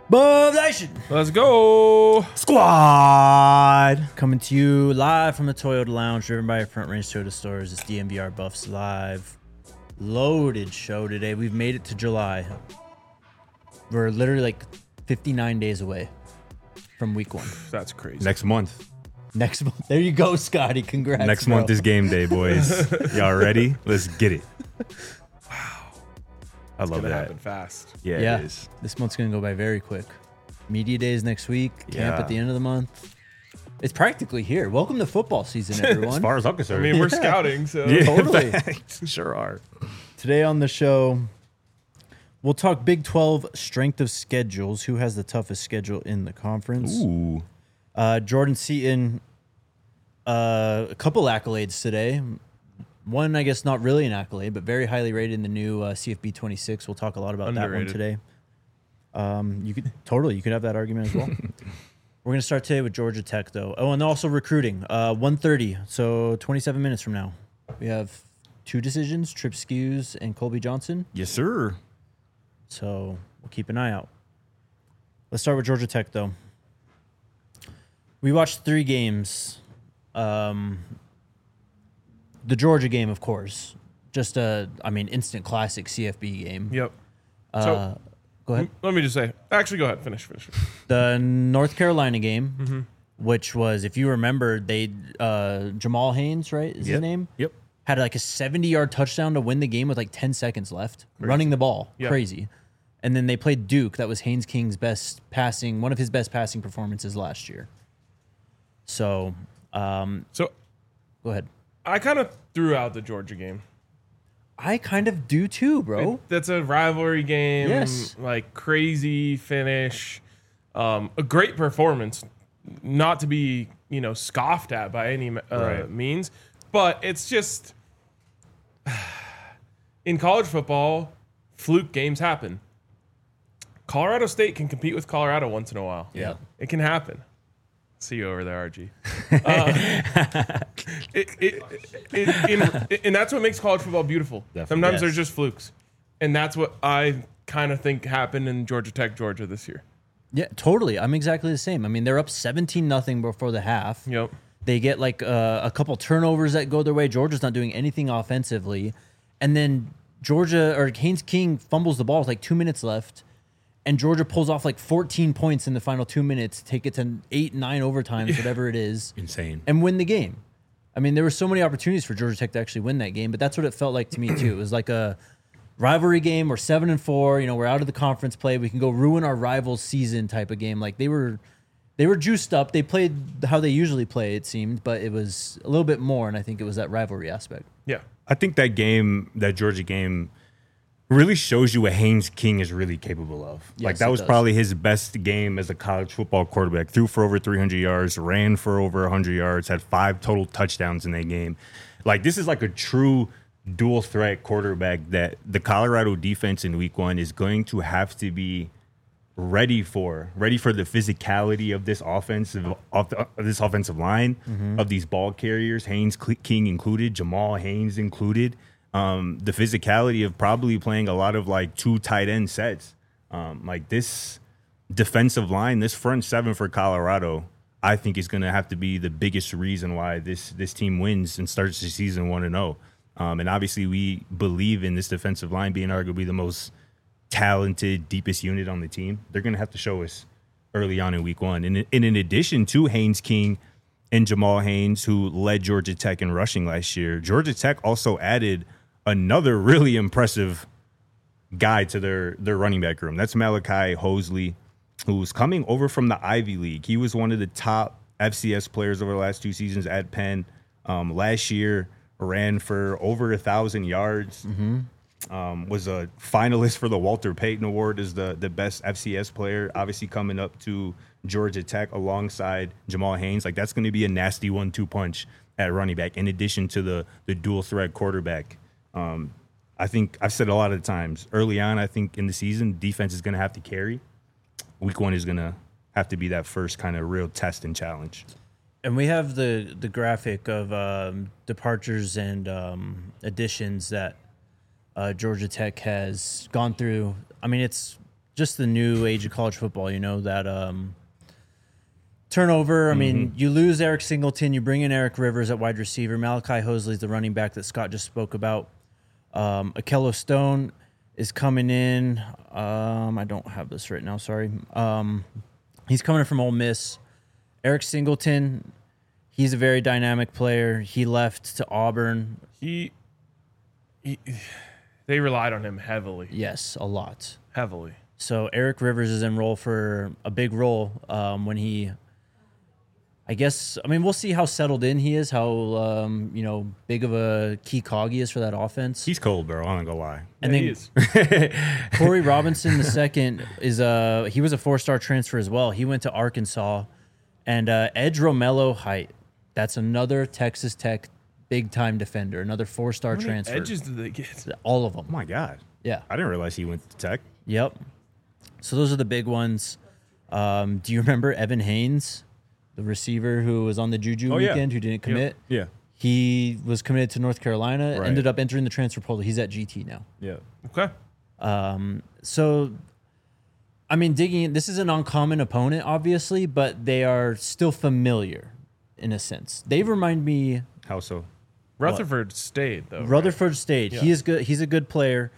Buff Nation Let's go. Squad coming to you live from the Toyota Lounge, driven by Front Range Toyota Stores. It's DMVR Buffs Live. Loaded show today. We've made it to July. We're literally like 59 days away from week one. That's crazy. Next month. Next month. There you go, Scotty. Congrats. Next bro. month is game day, boys. Y'all ready? Let's get it. I love Gonna that. happen fast. Yeah, it is. This month's going to go by very quick. Media days next week. Camp Yeah. at the end of the month. It's practically here. Welcome to football season, everyone. As far as I'm concerned. I mean, we're scouting, so yeah, Totally. facts. Sure are. Today on the show, we'll talk Big 12 strength of schedules. Who has the toughest schedule in the conference? Ooh. Jordan Seaton, a couple accolades today. One, I guess, not really an accolade, but very highly rated in the new CFB 26. We'll talk a lot about that one Underrated. today. You could have that argument as well. We're going to start today with Georgia Tech, though. Oh, and also recruiting. 1:30, so 27 minutes from now. We have two decisions, Trip Skews and Colby Johnson. Yes, sir. So we'll keep an eye out. Let's start with Georgia Tech, though. We watched 3 games. The Georgia game, of course. Just instant classic CFB game. Yep. Go ahead. Let me just say. Actually, go ahead. Finish. The North Carolina game, which was, if you remember, they Jamal Haynes, right, is his name? Yep. Had like a 70-yard touchdown to win the game with like 10 seconds left, running the ball. Yeah. Crazy. And then they played Duke. That was Haynes King's one of his best passing performances last year. So, So go ahead. I kind of threw out the Georgia game. I kind of do too, bro. That's a rivalry game. Yes. Like crazy finish. A great performance. Not to be, scoffed at by any Right. means. But it's just in college football, fluke games happen. Colorado State can compete with Colorado once in a while. Yeah. It can happen. See you over there, RG. And that's what makes college football beautiful. Definitely. Sometimes Yes. there's just flukes. And that's what I kind of think happened in Georgia Tech, Georgia this year. Yeah, totally. I'm exactly the same. I mean, they're up 17-0 before the half. Yep. They get like a couple turnovers that go their way. Georgia's not doing anything offensively. And then Haynes King fumbles the ball with like 2 minutes left. And Georgia pulls off like 14 points in the final 2 minutes, take it to 8-9 overtimes, whatever it is, Insane. and win the game. I mean, there were so many opportunities for Georgia Tech to actually win that game, but that's what it felt like to me too. It was like a rivalry game. We're 7-4. We're out of the conference play. We can go ruin our rival's season type of game. Like they were juiced up. They played how they usually play, it seemed, but it was a little bit more, and I think it was that rivalry aspect. Yeah. I think that Georgia game, really shows you what Haynes King is really capable of. Yes, Like that it was does. probably his best game as a college football quarterback. Threw for over 300 yards, ran for over 100 yards, had 5 total touchdowns in that game. Like this is like a true dual threat quarterback that the Colorado defense in week 1 is going to have to be ready for the physicality of this offensive line, of these ball carriers, Haynes King included, Jamal Haynes included. The physicality of probably playing a lot of like 2 tight end sets. Like this defensive line, this front 7 for Colorado, I think is going to have to be the biggest reason why this team wins and starts the season 1-0. And obviously we believe in this defensive line being arguably the most talented, deepest unit on the team. They're going to have to show us early on in week 1. And in addition to Haynes King and Jamal Haynes, who led Georgia Tech in rushing last year, Georgia Tech also added another really impressive guy to their running back room. That's Malachi Hosley, who's coming over from the Ivy League. He was one of the top FCS players over the last 2 seasons at Penn. Last year, ran for over 1,000 yards. Was a finalist for the Walter Payton Award as the best FCS player. Obviously coming up to Georgia Tech alongside Jamal Haynes. Like that's going to be a nasty 1-2 punch at running back, in addition to the dual threat quarterback. I think I've said a lot of times early on, I think in the season, defense is going to have to carry. Week 1 is going to have to be that first kind of real test and challenge. And we have the graphic of departures and additions that Georgia Tech has gone through. I mean, it's just the new age of college football, that turnover. I mean, you lose Eric Singleton, you bring in Eric Rivers at wide receiver. Malachi Hosley's the running back that Scott just spoke about. Akello Stone is coming in. I don't have this right now, sorry. He's coming in from Ole Miss. Eric Singleton, he's a very dynamic player. He left to Auburn. They relied on him heavily. Yes, a lot. Heavily. So Eric Rivers is in role for a big role when he, I guess, I mean, we'll see how settled in he is, how, big of a key cog he is for that offense. He's cold, bro. I'm not gonna lie. And Yeah, then he is. Corey Robinson II is he was a 4-star transfer as well. He went to Arkansas. And Edge Romello Height, that's another Texas Tech big-time defender, another 4-star How many transfer. edges did they get? All of them. Oh my God. Yeah. I didn't realize he went to Tech. Yep. So those are the big ones. Do you remember Evan Haynes, the receiver who was on the Juju Oh, yeah. weekend, who didn't commit? Yeah. He was committed to North Carolina, Right. ended up entering the transfer portal. He's at GT now. Yeah. Okay. So, I mean, digging in, this is an uncommon opponent, obviously, but they are still familiar in a sense. They remind me. How so? Rutherford stayed, though. Rutherford State. Yeah. He is good. He's a good player.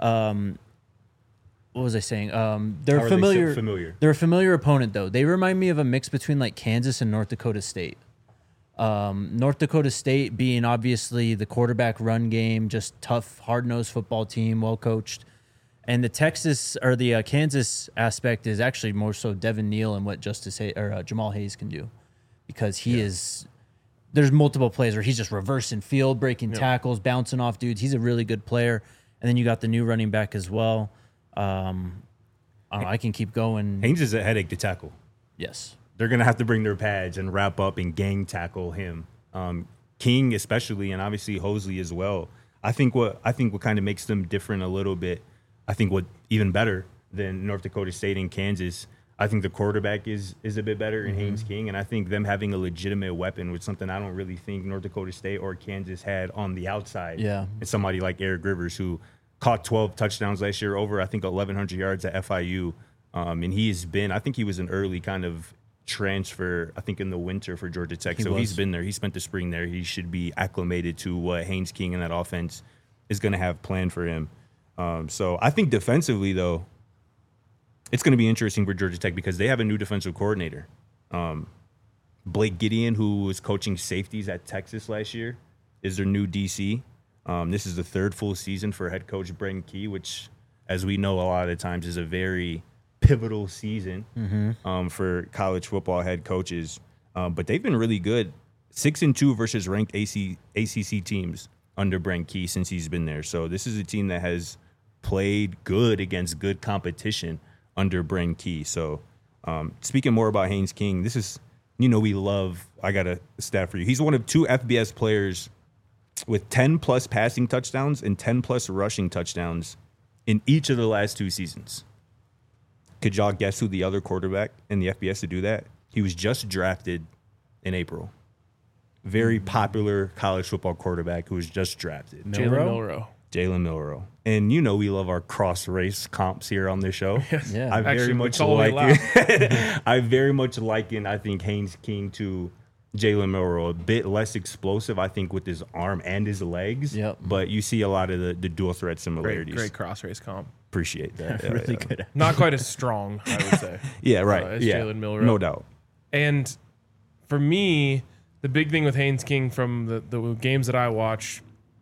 What was I saying? They're How are they so familiar. familiar? They're a familiar opponent, though. They remind me of a mix between like Kansas and North Dakota State. North Dakota State being obviously the quarterback run game, just tough, hard-nosed football team, well coached. And the Texas or the Kansas aspect is actually more so Devin Neal and what Jamal Hayes can do, because he is. There's multiple plays where he's just reversing field, breaking tackles, bouncing off dudes. He's a really good player. And then you got the new running back as well. I don't know, I can keep going. Haynes is a headache to tackle. Yes. They're gonna have to bring their pads and wrap up and gang tackle him. King especially, and obviously Hosley as well. I think what kind of makes them different a little bit. I think what even better than North Dakota State and Kansas. I think the quarterback is a bit better in Haynes King, and I think them having a legitimate weapon was something I don't really think North Dakota State or Kansas had on the outside. Yeah. And somebody like Eric Rivers, who caught 12 touchdowns last year, over I think 1,100 yards at FIU, and I think he was an early kind of transfer, I think in the winter for Georgia Tech. He's been there. He spent the spring there. He should be acclimated to what Haynes King and that offense is going to have planned for him. So I think defensively, though, it's going to be interesting for Georgia Tech because they have a new defensive coordinator. Blake Gideon, who was coaching safeties at Texas last year, is their new DC. This is the third full season for head coach Brent Key, which, as we know, a lot of the times is a very pivotal season for college football head coaches. But they've been really good. 6-2 versus ranked ACC teams under Brent Key since he's been there. So this is a team that has played good against good competition under Brent Key. So speaking more about Haynes King, this is, I got a stat for you. He's one of 2 FBS players with 10-plus passing touchdowns and 10-plus rushing touchdowns in each of the last 2 seasons. Could y'all guess who the other quarterback in the FBS to do that? He was just drafted in April. Very popular college football quarterback who was just drafted. Jalen Jalen Milroe. And we love our cross-race comps here on this show. Yeah. I very Actually, much it's all we like it. I very much liken, I think, Haynes King to Jalen Milroe. A bit less explosive, I think, with his arm and his legs. Yep. But you see a lot of the dual threat similarities. Great cross race comp. Appreciate that. Yeah, Really yeah. good. Not quite as strong, I would say. Yeah, right. As yeah. Jalen Milroe. No doubt. And for me, the big thing with Haynes King from the games that I watch,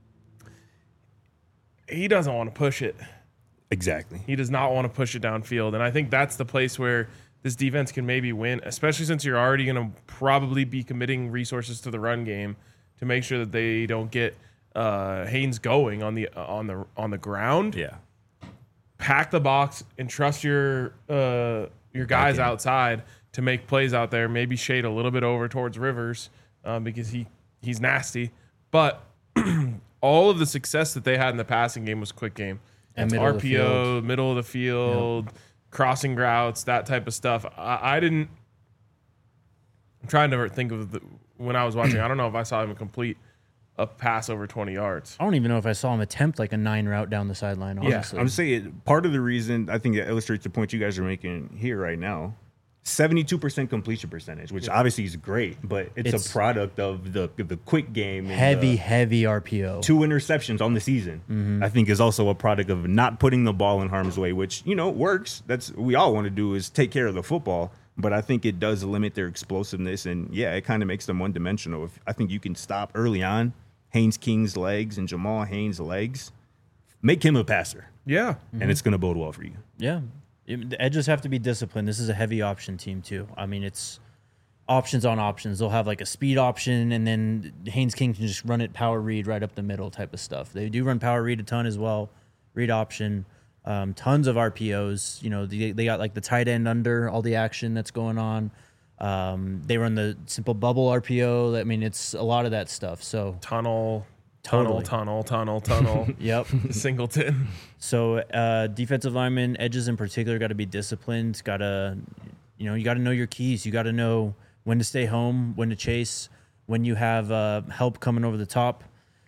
he doesn't want to push it. Exactly. He does not want to push it downfield. And I think that's the place where this defense can maybe win, especially since you're already going to probably be committing resources to the run game to make sure that they don't get Haynes going on the ground. Yeah. Pack the box and trust your guys outside to make plays out there. Maybe shade a little bit over towards Rivers because he's nasty. But all of the success that they had in the passing game was quick game. And It's middle of the RPO, field. middle of the field, crossing routes, that type of stuff. I'm trying to think of when I was watching. I don't know if I saw him complete a pass over 20 yards. I don't even know if I saw him attempt like a 9 route down the sideline, honestly. I'm saying part of the reason I think it illustrates the point you guys are making here right now. 72% completion percentage, which obviously is great, but it's a product of the quick game. And heavy RPO. 2 interceptions on the season, I think, is also a product of not putting the ball in harm's way, which, works. That's we all want to do is take care of the football, but I think it does limit their explosiveness, and it kind of makes them one-dimensional. I think you can stop early on Haynes King's legs and Jamal Haynes' legs, make him a passer. Yeah. And it's going to bode well for you. Yeah. The edges have to be disciplined. This is a heavy option team, too. I mean, it's options on options. They'll have like a speed option, and then Haynes King can just run it power read right up the middle type of stuff. They do run power read a ton as well, read option, tons of RPOs. They got like the tight end under all the action that's going on. They run the simple bubble RPO. I mean, it's a lot of that stuff. So Tunnel. Totally. Tunnel. Yep. Singleton. So defensive linemen, edges in particular, got to be disciplined. You got to know your keys. You got to know when to stay home, when to chase, when you have help coming over the top.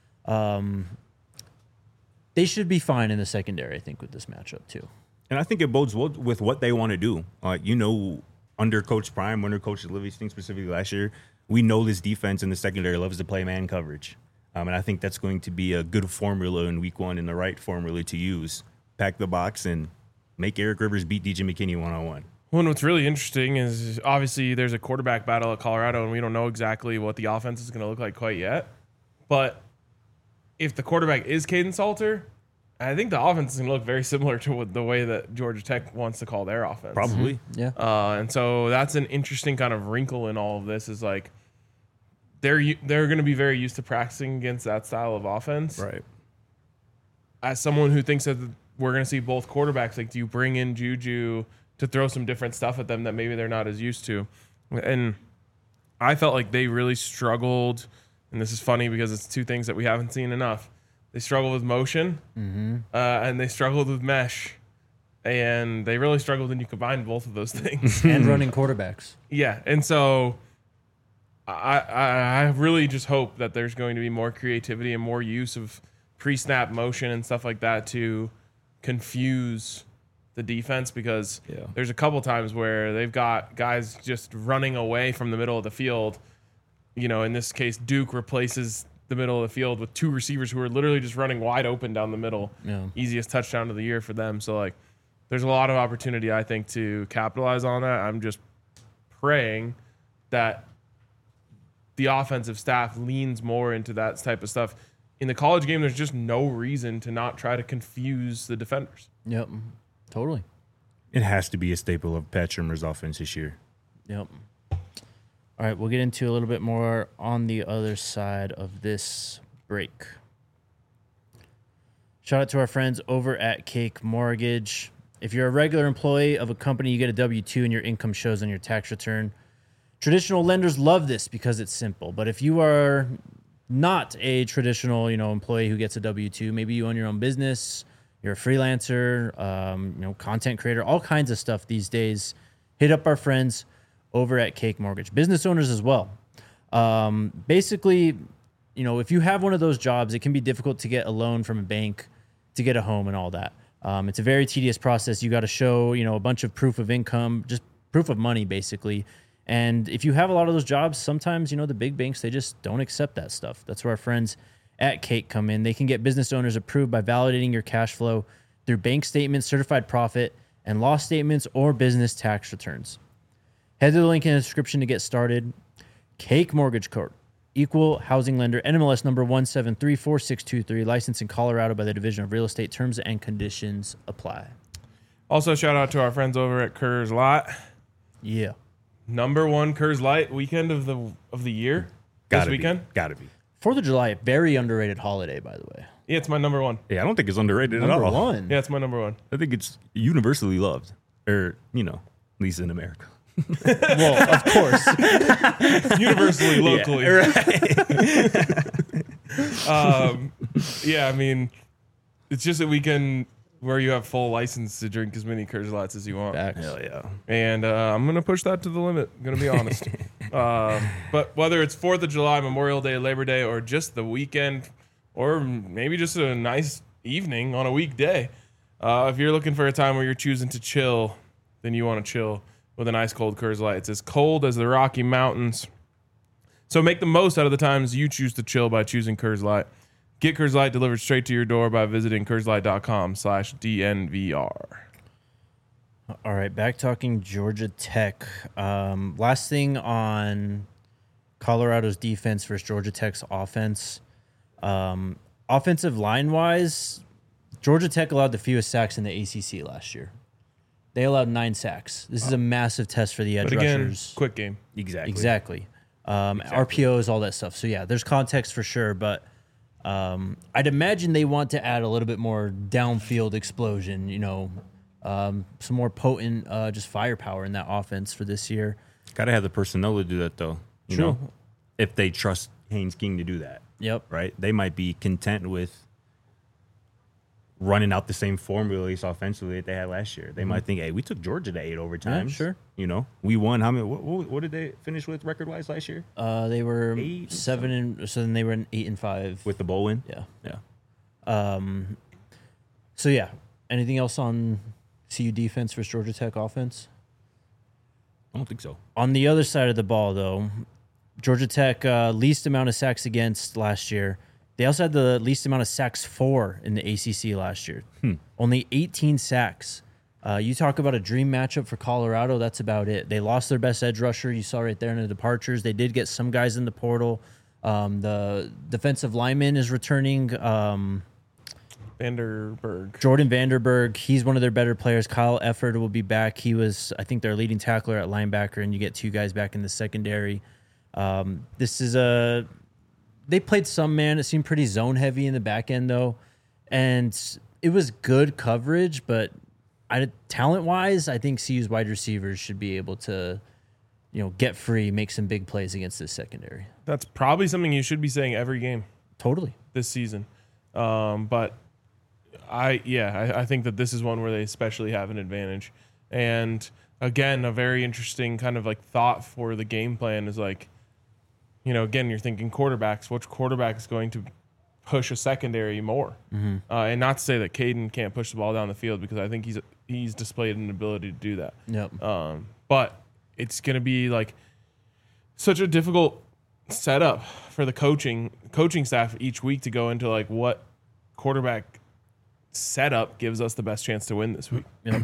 They should be fine in the secondary, I think, with this matchup too. And I think it bodes well with what they want to do. Under Coach Prime, under Coach Livingston specifically last year, we know this defense in the secondary loves to play man coverage. And I think that's going to be a good formula in week 1 and the right formula to use. Pack the box and make Eric Rivers beat DJ McKinney one-on-one. Well, and what's really interesting is obviously there's a quarterback battle at Colorado, and we don't know exactly what the offense is going to look like quite yet. But if the quarterback is Caden Salter, I think the offense is going to look very similar to the way that Georgia Tech wants to call their offense. Probably. Yeah. And so that's an interesting kind of wrinkle in all of this is like they're going to be very used to practicing against that style of offense. Right. As someone who thinks that we're going to see both quarterbacks, like, do you bring in Juju to throw some different stuff at them that maybe they're not as used to? And I felt like they really struggled, and this is funny because it's 2 things that we haven't seen enough. They struggled with motion, and they struggled with mesh, and they really struggled when you combine both of those things. And running quarterbacks. Yeah, and so I really just hope that there's going to be more creativity and more use of pre-snap motion and stuff like that to confuse the defense, because there's a couple times where they've got guys just running away from the middle of the field. In this case, Duke replaces the middle of the field with 2 receivers who are literally just running wide open down the middle. Yeah. Easiest touchdown of the year for them. So, like, there's a lot of opportunity, I think, to capitalize on that. I'm just praying that the offensive staff leans more into that type of stuff. In the college game, there's just no reason to not try to confuse the defenders. Yep. Totally. It has to be a staple of Pat Shurmur's offense this year. Yep. All right, we'll get into a little bit more on the other side of this break. Shout out to our friends over at Cake Mortgage. If you're a regular employee of a company, you get a W-2 and your income shows on your tax return. Traditional lenders love this because it's simple. But if you are not a traditional, employee who gets a W-2, maybe you own your own business, you're a freelancer, content creator, all kinds of stuff these days, hit up our friends over at Cake Mortgage. Business owners as well. Basically, if you have one of those jobs, it can be difficult to get a loan from a bank to get a home and all that. It's a very tedious process. You got to show, a bunch of proof of income, just proof of money, basically. And if you have a lot of those jobs, sometimes, the big banks, they just don't accept that stuff. That's where our friends at Cake come in. They can get business owners approved by validating your cash flow through bank statements, certified profit, and loss statements, or business tax returns. Head to the link in the description to get started. Cake Mortgage Corp. Equal housing lender, NMLS number 1734623, licensed in Colorado by the Division of Real Estate. Terms and conditions apply. Also, shout out to our friends over at Kerr's Lot. Yeah. Number 1 Kerr's Light weekend of the year. This weekend. Gotta be. 4th of July, very underrated holiday, by the way. Yeah, it's my number 1. Yeah, I don't think it's underrated at Number all. 1. Yeah, it's my number 1. I think it's universally loved, or at least in America. Well, of course. Universally, locally. Yeah, right. Yeah, I mean, it's just that we can where you have full license to drink as many Coors Lights as you want. Facts. Hell yeah. And I'm going to push that to the limit. I'm going to be honest. But whether it's 4th of July, Memorial Day, Labor Day, or just the weekend, or maybe just a nice evening on a weekday, if you're looking for a time where you're choosing to chill, then you want to chill with an ice cold Coors Light. It's as cold as the Rocky Mountains. So make the most out of the times you choose to chill by choosing Coors Light. Get Coors Light delivered straight to your door by visiting CoorsLight.com/DNVR. All right, back talking Georgia Tech. Last thing on Colorado's defense versus Georgia Tech's offense. Offensive line-wise, Georgia Tech allowed the fewest sacks in the ACC last year. They allowed 9 sacks. This is a massive test for the edge But again, rushers. quick game. Exactly. RPOs, all that stuff. So, yeah, there's context for sure, but I'd imagine they want to add a little bit more downfield explosion, some more potent just firepower in that offense for this year. Got to have the personnel to do that, though. You True. know, if they trust Haynes King to do that. Yep. Right? They might be content with running out the same formula, at least offensively, that they had last year. They might think, hey, we took Georgia to 8 overtimes. sure. We won. How many? What did they finish with record-wise last year? They were 8 7 and so then they were in 8-5 With the bowl win? yeah. Yeah. So yeah, anything else on CU defense versus Georgia Tech offense? I don't think so. On the other side of the ball, though, Georgia Tech least amount of sacks against last year. They also had the least amount of sacks for in the ACC last year. Only 18 sacks. You talk about a dream matchup for Colorado. That's about it. They lost their best edge rusher. You saw right there in the departures. They did get some guys in the portal. The defensive lineman is returning. Vanderberg. Jordan Vanderberg. He's one of their better players. Kyle Efford will be back. He was, I think, their leading tackler at linebacker, and you get 2 guys back in the secondary. This is they played some man. It seemed pretty zone heavy in the back end, though. And it was good coverage, but talent-wise, I think CU's wide receivers should be able to, get free, make some big plays against this secondary. That's probably something you should be saying every game Totally. this season. But I think that this is one where they especially have an advantage. And again, a very interesting kind of like thought for the game plan is like, again, you're thinking quarterbacks. Which quarterback is going to push a secondary more? And not to say that Caden can't push the ball down the field, because I think he's displayed an ability to do that. Yep. But it's going to be like such a difficult setup for the coaching staff each week to go into like what quarterback setup gives us the best chance to win this week. Yep.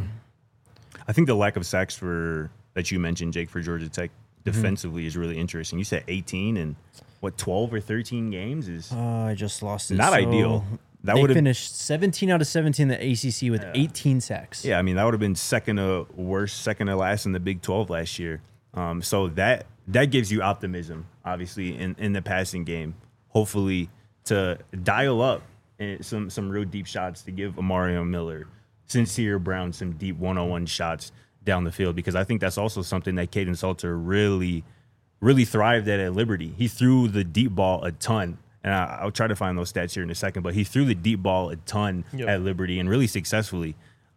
I think the lack of sacks that you mentioned, Jake, for Georgia Tech defensively is really interesting. You said 18 and 12 or 13 games is I just lost it. not So ideal. That they would have finished 17 out of 17 in the ACC with 18 sacks. Yeah, I mean, that would have been second to last in the Big 12 last year. So that gives you optimism, obviously, in the passing game. Hopefully, to dial up some real deep shots to give Amario Miller, Sincere Brown some deep one-on-one shots down the field, because I think that's also something that Kaidon Salter really, really thrived at Liberty. He threw the deep ball a ton. And I'll try to find those stats here in a second, but he threw the deep ball a ton at Liberty and really successfully.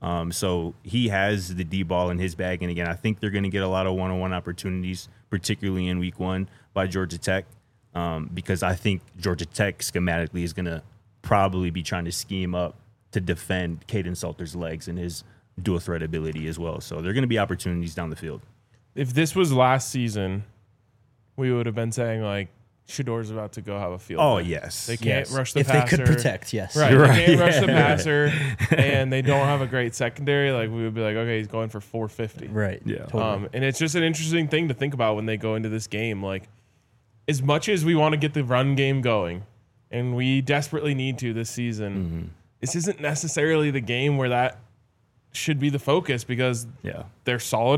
So he has the deep ball in his bag. And again, I think they're going to get a lot of one-on-one opportunities, particularly in week 1 by Georgia Tech, because I think Georgia Tech schematically is going to probably be trying to scheme up to defend Kaidon Salter's legs and his dual threat ability as well. So there are going to be opportunities down the field. If this was last season, we would have been saying like, Shador's about to go have a field Oh, day. yes. They can't Yes. rush the if passer. they could protect, yes. Right. You're They right. can't rush the passer, and they don't have a great secondary. Like, we would be like, okay, he's going for 450. Right. Yeah. Totally. And it's just an interesting thing to think about when they go into this game. Like, as much as we want to get the run game going, and we desperately need to this season, this isn't necessarily the game where that should be the focus, because they're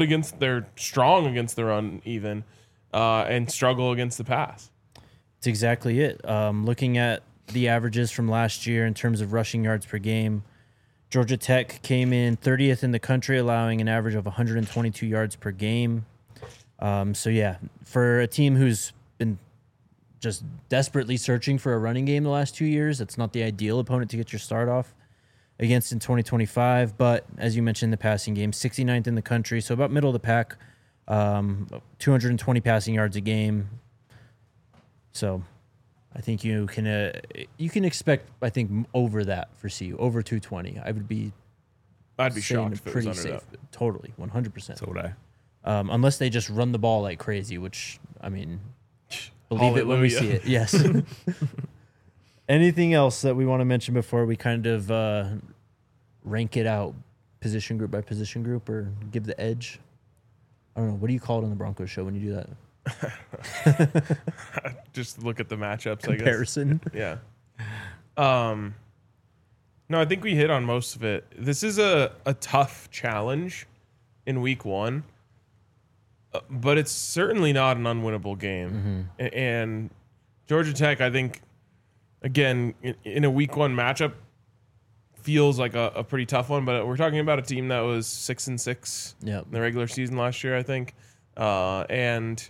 strong against the run even, and struggle against the pass. That's exactly it. Looking at the averages from last year in terms of rushing yards per game, Georgia Tech came in 30th in the country, allowing an average of 122 yards per game. So, yeah, for a team who's been just desperately searching for a running game the last 2 years, that's not the ideal opponent to get your start off. against in 2025. But as you mentioned, the passing game, 69th in the country, so about middle of the pack, 220 passing yards a game. So I think you can expect, I think, over that for CU, over 220. I'd be shocked if it was under that. Totally, 100%. So would I. Unless they just run the ball like crazy, which, I mean, believe it when we see it. Yes. Anything else that we want to mention before we kind of rank it out position group by position group or give the edge? I don't know. What do you call it on the Broncos show when you do that? Just look at the matchups, Comparison. I guess. Yeah. No, I think we hit on most of it. This is a tough challenge in week 1, but it's certainly not an unwinnable game. And Georgia Tech, I think, again, in a week 1 matchup, feels like a pretty tough one. But we're talking about a team that was 6-6 in the regular season last year, I think, and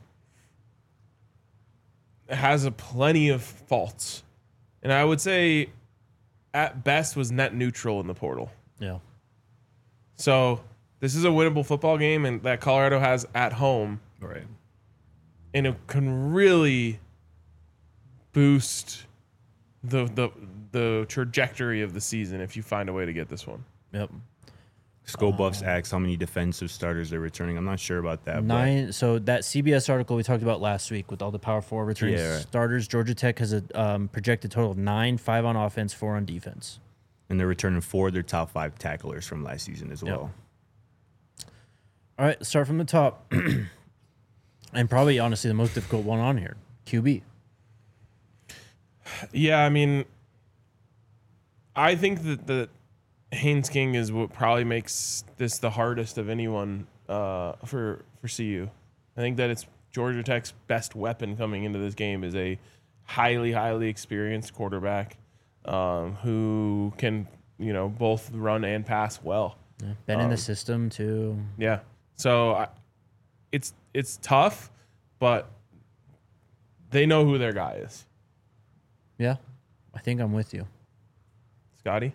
has plenty of faults. And I would say, at best, was net neutral in the portal. Yeah. So this is a winnable football game, and that Colorado has at home. Right. And it can really boost the trajectory of the season if you find a way to get this one. Yep. Skull Buffs asks how many defensive starters they're returning. I'm not sure about that. 9. So that CBS article we talked about last week with all the Power 4 returning starters, Georgia Tech has a projected total of 9, 5 on offense, 4 on defense. And they're returning 4 of their top 5 tacklers from last season as well. All right, start from the top. And probably, honestly, the most difficult one on here, QB. Yeah, I mean, I think that Haynes King is what probably makes this the hardest of anyone for CU. I think that it's Georgia Tech's best weapon coming into this game is a highly, highly experienced quarterback who can, both run and pass well. Yeah, been in the system too. Yeah, so it's tough, but they know who their guy is. Yeah, I think I'm with you, Scotty.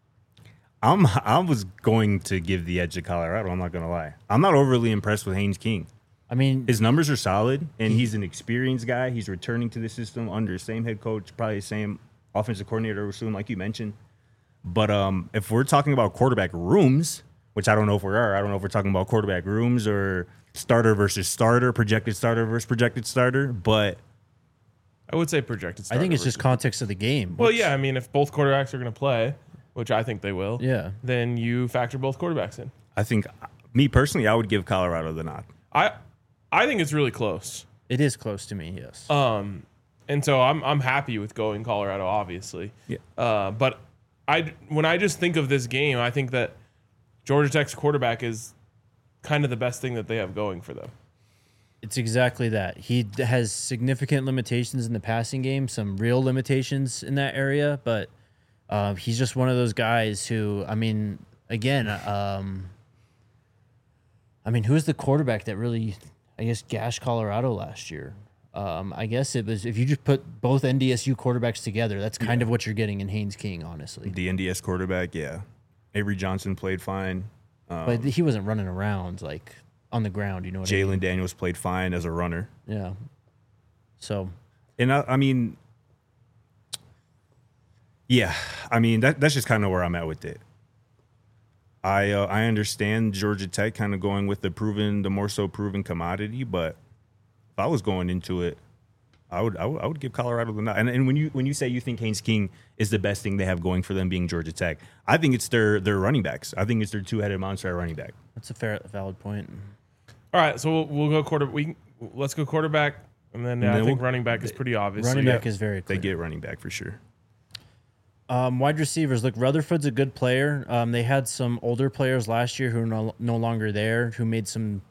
I was going to give the edge to Colorado. I'm not going to lie. I'm not overly impressed with Haynes King. I mean, his numbers are solid, and he's an experienced guy. He's returning to the system under the same head coach, probably the same offensive coordinator soon, like you mentioned. But if we're talking about quarterback rooms, which I don't know if we are, I don't know if we're talking about quarterback rooms or starter versus starter, projected starter versus projected starter, but I would say projected starter. I think it's just context of the game. Well, yeah, I mean, if both quarterbacks are going to play, which I think they will, then you factor both quarterbacks in. I think, me personally, I would give Colorado the nod. I think it's really close. It is close to me, yes. And so I'm happy with going Colorado, obviously. Yeah. But when I just think of this game, I think that Georgia Tech's quarterback is kind of the best thing that they have going for them. It's exactly that. He has significant limitations in the passing game, some real limitations in that area, but he's just one of those guys who, I mean, again, who's the quarterback that really, I guess, gashed Colorado last year? I guess it was, if you just put both NDSU quarterbacks together, that's kind of what you're getting in Haynes King, honestly. The NDS quarterback, yeah. Avery Johnson played fine. But he wasn't running around, like, on the ground, you know what I mean? Jalen Daniels played fine as a runner. Yeah. So. And I mean, that's just kind of where I'm at with it. I understand Georgia Tech kind of going with the more so proven commodity, but if I was going into it, I would give Colorado the nod. And when you say you think Haynes King is the best thing they have going for them being Georgia Tech, I think it's their running backs. I think it's their two-headed monster at running back. That's a valid point. All right, so we'll go let's go quarterback, and then I think running back is pretty obvious. Running back is very clear. They get running back for sure. Wide receivers. Look, Rutherford's a good player. They had some older players last year who are no longer there, who made some,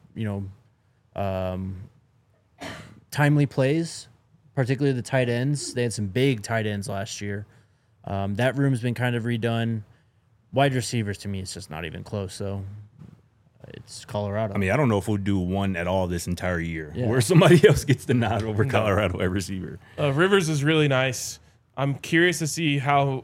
timely plays, particularly the tight ends. They had some big tight ends last year. That room's been kind of redone. Wide receivers, to me, it's just not even close, though. It's Colorado. I mean, I don't know if we'll do one at all this entire year, where somebody else gets the nod over Colorado at receiver. Rivers is really nice. I'm curious to see how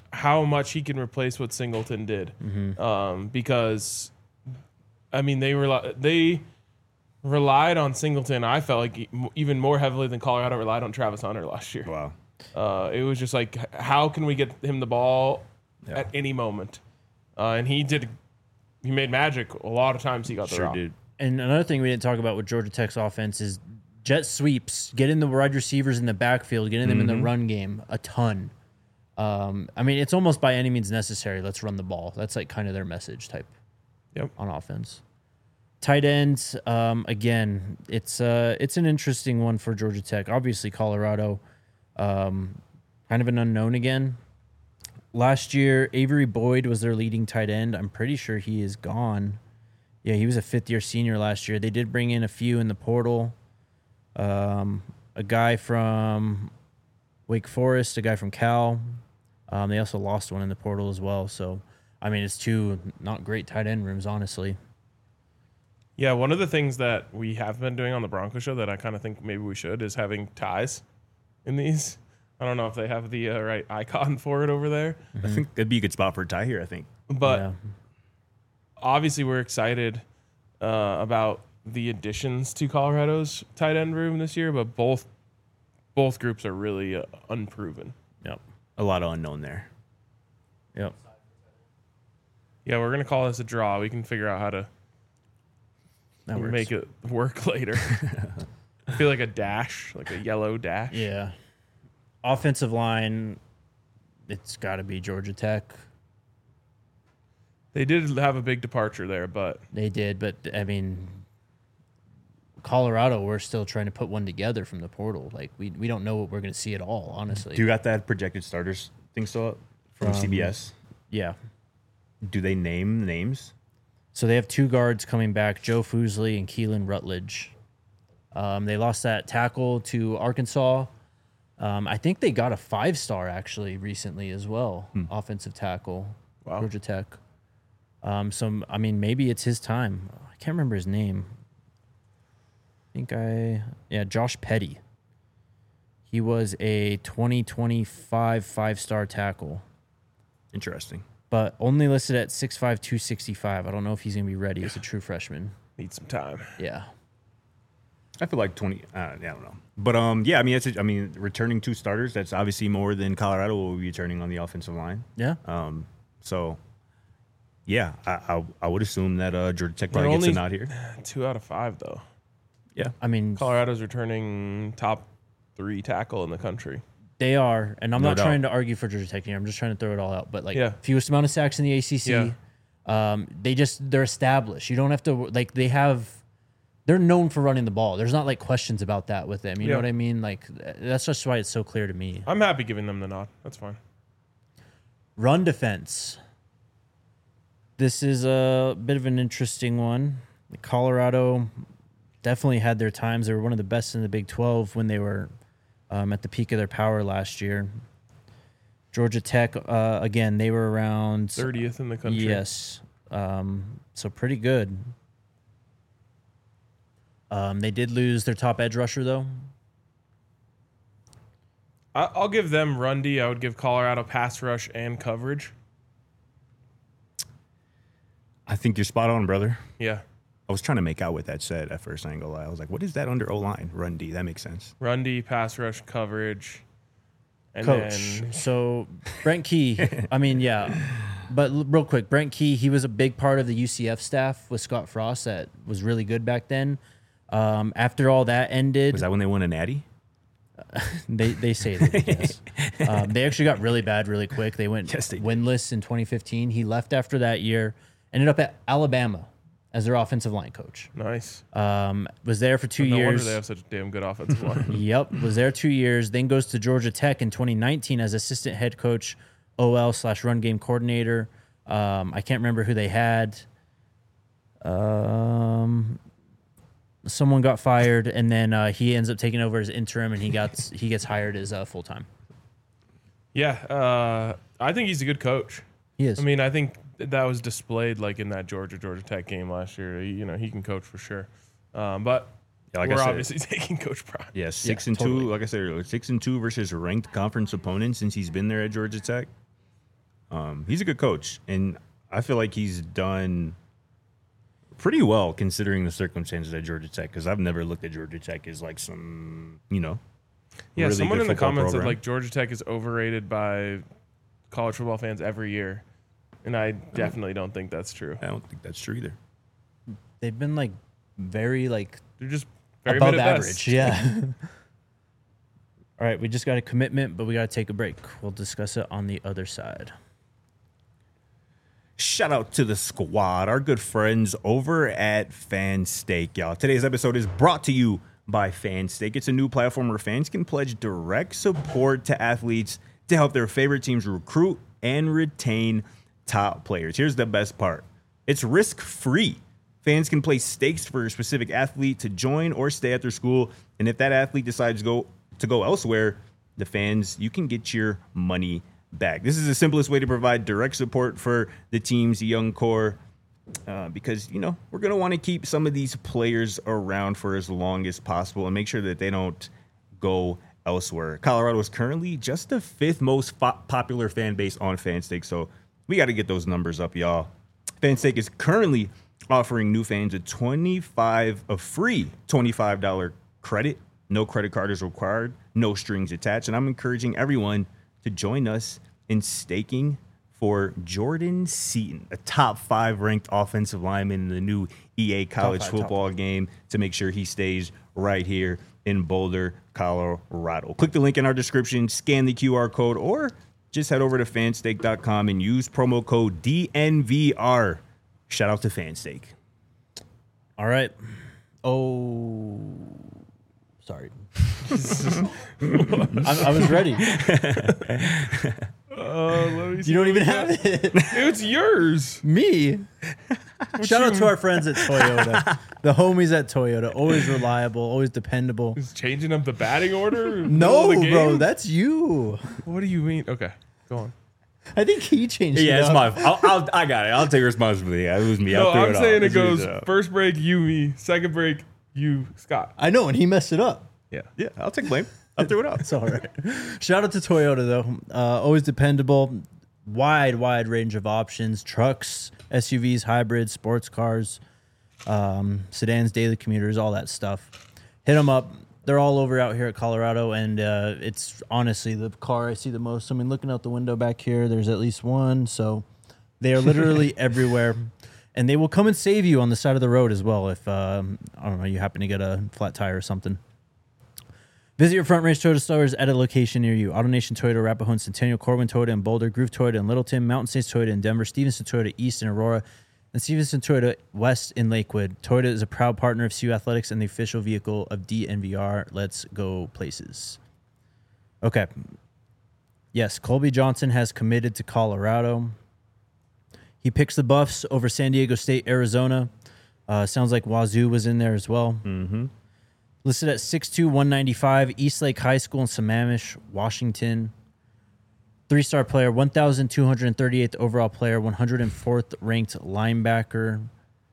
how much he can replace what Singleton did. Because, I mean, they relied on Singleton, I felt like, even more heavily than Colorado relied on Travis Hunter last year. Wow. It was just like, how can we get him the ball at any moment? And he made magic a lot of times he got the Sure rock. did. And another thing we didn't talk about with Georgia Tech's offense is jet sweeps, getting the wide receivers in the backfield, getting them in the run game a ton. I mean, it's almost by any means necessary. Let's run the ball. That's like kind of their message type on offense. Tight ends, again, it's an interesting one for Georgia Tech. Obviously, Colorado, kind of an unknown again. Last year, Avery Boyd was their leading tight end. I'm pretty sure he is gone. Yeah, he was a fifth-year senior last year. They did bring in a few in the portal. A guy from Wake Forest, a guy from Cal. They also lost one in the portal as well. So, I mean, it's two not great tight end rooms, honestly. Yeah, one of the things that we have been doing on the Bronco show that I kind of think maybe we should is having ties in these. I don't know if they have the right icon for it over there. I think that'd be a good spot for a tie here, I think. But obviously we're excited about the additions to Colorado's tight end room this year, but both groups are really unproven. Yep. A lot of unknown there. Yep. Yeah, we're going to call this a draw. We can figure out how to That works. make it work later. I feel like a dash, like a yellow dash. Yeah. Offensive line, it's got to be Georgia Tech. They did have a big departure there, but They did, but I mean, Colorado, we're still trying to put one together from the portal. Like we don't know what we're going to see at all, honestly. Do you got that projected starters thing still up from CBS? Yeah. Do they name names? So they have two guards coming back, Joe Foosley and Keelan Rutledge. They lost that tackle to Arkansas. I think they got a 5-star actually recently as well, offensive tackle, Wow. Georgia Tech. So, I mean, maybe it's his time. I can't remember his name. Josh Petty. He was a 2025 5-star tackle, Interesting. but only listed at 6'5", 265. I don't know if he's going to be ready as a true freshman. need some time. Yeah. I feel like 20. I don't know, but yeah. I mean, returning 2 starters. That's obviously more than Colorado will be returning on the offensive line. Yeah. So, yeah, I would assume that Georgia Tech probably gets a nod here. 2 out of 5 though. Yeah, I mean, Colorado's returning top 3 tackle in the country. they are, and I'm No not doubt. trying to argue for Georgia Tech here. I'm just trying to throw it all out. But, like, Yeah. fewest amount of sacks in the ACC. Yeah. They're established. You don't have to, like, they're known for running the ball. There's not, like, questions about that with them. You know Yeah. what I mean? Like, that's just why it's so clear to me. I'm happy giving them the nod. That's fine. Run defense. This is a bit of an interesting one. Colorado definitely had their times. They were one of the best in the Big 12 when they were at the peak of their power last year. Georgia Tech, again, they were around 30th in the country. Yes. So pretty good. They did lose their top edge rusher, though. I'll give them Rundy. I would give Colorado pass rush and coverage. I think you're spot on, brother. Yeah. I was trying to make out what that said at first. I ain't gonna lie. I was like, what is that under O-line? Run D. That makes sense. Rundy, pass rush, coverage. And Coach. then So Brent Key, I mean, yeah. But real quick, Brent Key, he was a big part of the UCF staff with Scott Frost that was really good back then. After all that ended, Was that when they won a natty? they say they did, yes. They actually got really bad really quick. They went Yes, they did. winless in 2015. He left after that year, ended up at Alabama as their offensive line coach. nice. Was there for 2 No wonder years. they have such a damn good offensive line. Yep, was there 2 years. Then goes to Georgia Tech in 2019 as assistant head coach, OL/run game coordinator. I can't remember who they had. Someone got fired, and then he ends up taking over as interim, and he gets hired as full time. Yeah. I think he's a good coach. He is. I mean, I think that was displayed like in that Georgia Tech game last year. He can coach for sure. But Yeah, like I we're said- obviously taking Coach Prime. Yeah, 6-2. totally. Like I said earlier, 6-2 versus ranked conference opponents since he's been there at Georgia Tech. He's a good coach, and I feel like he's done pretty well considering the circumstances at Georgia Tech, because I've never looked at Georgia Tech as like some, Yeah, really someone good in the football comments program. said like Georgia Tech is overrated by college football fans every year, and I definitely don't think that's true. I don't think that's true either. They've been like very like They're just very above mid at average. best. Yeah. All right, we just got a commitment, but we got to take a break. We'll discuss it on the other side. Shout out to the squad, our good friends over at FanStake, y'all. Today's episode is brought to you by FanStake. It's a new platform where fans can pledge direct support to athletes to help their favorite teams recruit and retain top players. Here's the best part. It's risk-free. Fans can place stakes for a specific athlete to join or stay at their school, and if that athlete decides to go elsewhere, the fans, you can get your money back. This is the simplest way to provide direct support for the team's young core, because we're going to want to keep some of these players around for as long as possible and make sure that they don't go elsewhere. Colorado is currently just the 5th most popular fan base on FanStake, so we got to get those numbers up, y'all. FanStake is currently offering new fans a free $25 credit. No credit card is required, no strings attached, and I'm encouraging everyone to join us in staking for Jordan Seaton, a top 5 ranked offensive lineman in the new EA college football game, to make sure he stays right here in Boulder, Colorado. Click the link in our description, scan the QR code, or just head over to fanstake.com and use promo code DNVR. Shout out to FanStake. All right. Oh, sorry. I was ready. Let me see. You don't even have it. It's yours. Me. Shout out to our friends at Toyota. The homies at Toyota. Always reliable, always dependable. Is changing up the batting order? in the No, middle of the bro, game? that's you. What do you mean? Okay, go on. I think he changed Yeah, it it's up. my. I got it. I'll take responsibility. It was me. No, I'm saying it Let's goes use it up. first break, you, me. Second break, you, Scott. I know, and he messed it up. Yeah. Yeah, I'll take blame. I'll throw it up. It's all right. Shout out to Toyota, though. Always dependable. Wide range of options. Trucks, SUVs, hybrids, sports cars, sedans, daily commuters, all that stuff. Hit them up. They're all over out here at Colorado, and it's honestly the car I see the most. I mean, looking out the window back here, there's at least one. So they are literally everywhere. And they will come and save you on the side of the road as well if, I don't know, you happen to get a flat tire or something. Visit your Front Range Toyota stores at a location near you. AutoNation Toyota, Arapahoe and Centennial, Corwin Toyota in Boulder, Groove Toyota in Littleton, Mountain States Toyota in Denver, Stevenson Toyota East in Aurora, and Stevenson Toyota West in Lakewood. Toyota is a proud partner of CU Athletics and the official vehicle of DNVR. Let's go places. Okay. Yes, Colby Johnson has committed to Colorado. He picks the Buffs over San Diego State, Arizona. Sounds like Wazoo was in there as well. Mm-hmm. Listed at 6'2", 195, Eastlake High School in Sammamish, Washington. 3-star player, 1,238th overall player, 104th ranked linebacker.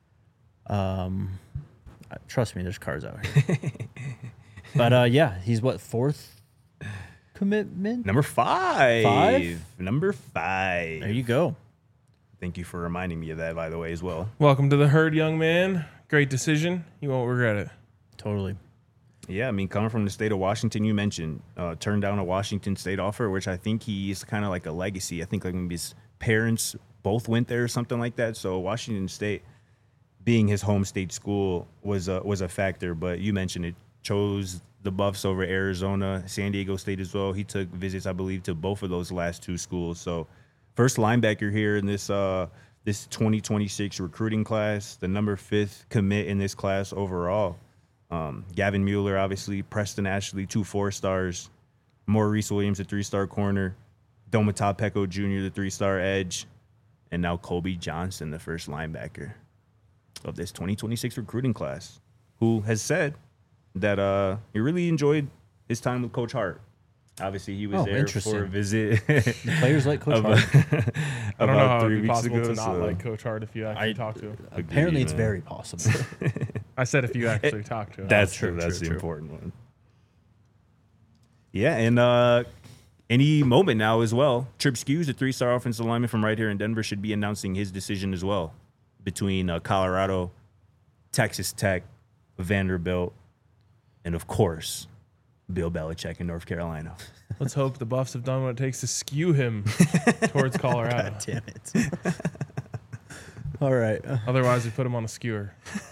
Trust me, there's cars out here. But yeah, he's what, 4th commitment? Number 5. 5? Number 5. There you go. Thank you for reminding me of that, by the way, as well. Welcome to the herd, young man. Great decision. You won't regret it. Totally. Yeah, I mean, coming from the state of Washington, you mentioned turned down a Washington State offer, which I think he's kind of like a legacy. I think like maybe his parents both went there or something like that. So Washington State, being his home state school, was a factor. But you mentioned it, chose the Buffs over Arizona, San Diego State as well. He took visits, I believe, to both of those last 2 schools. So first linebacker here in this 2026 recruiting class, the number 5th commit in this class overall. Gavin Mueller, obviously, Preston Ashley, 2 4-stars, Maurice Williams, a 3-star corner, Domata Peko Jr., the 3-star edge, and now Colby Johnson, the first linebacker of this 2026 recruiting class, who has said that he really enjoyed his time with Coach Hart. Obviously, he was there for a visit. The players like Coach Hart. I don't know how 3 it'd be weeks possible ago. to not like Coach Hart if you actually talk to him. Apparently, it's man. very possible. I said if you actually talk to him. That's true, true. That's true, the true. important one. Yeah, and any moment now as well. Trip Skews, a 3-star offensive lineman from right here in Denver, should be announcing his decision as well between Colorado, Texas Tech, Vanderbilt, and of course, Bill Belichick in North Carolina. Let's hope the Buffs have done what it takes to skew him towards Colorado. God damn it. All right. Otherwise, we put him on a skewer.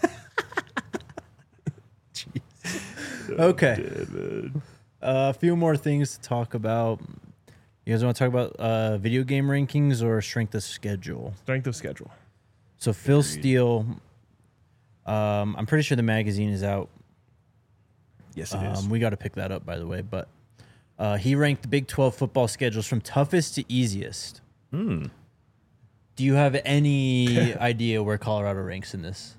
Okay. A few more things to talk about. You guys want to talk about video game rankings or strength of schedule? Strength of schedule. So Phil Steele, I'm pretty sure the magazine is out. Yes, it is. We got to pick that up, by the way. But he ranked the Big 12 football schedules from toughest to easiest. Do you have any idea where Colorado ranks in this?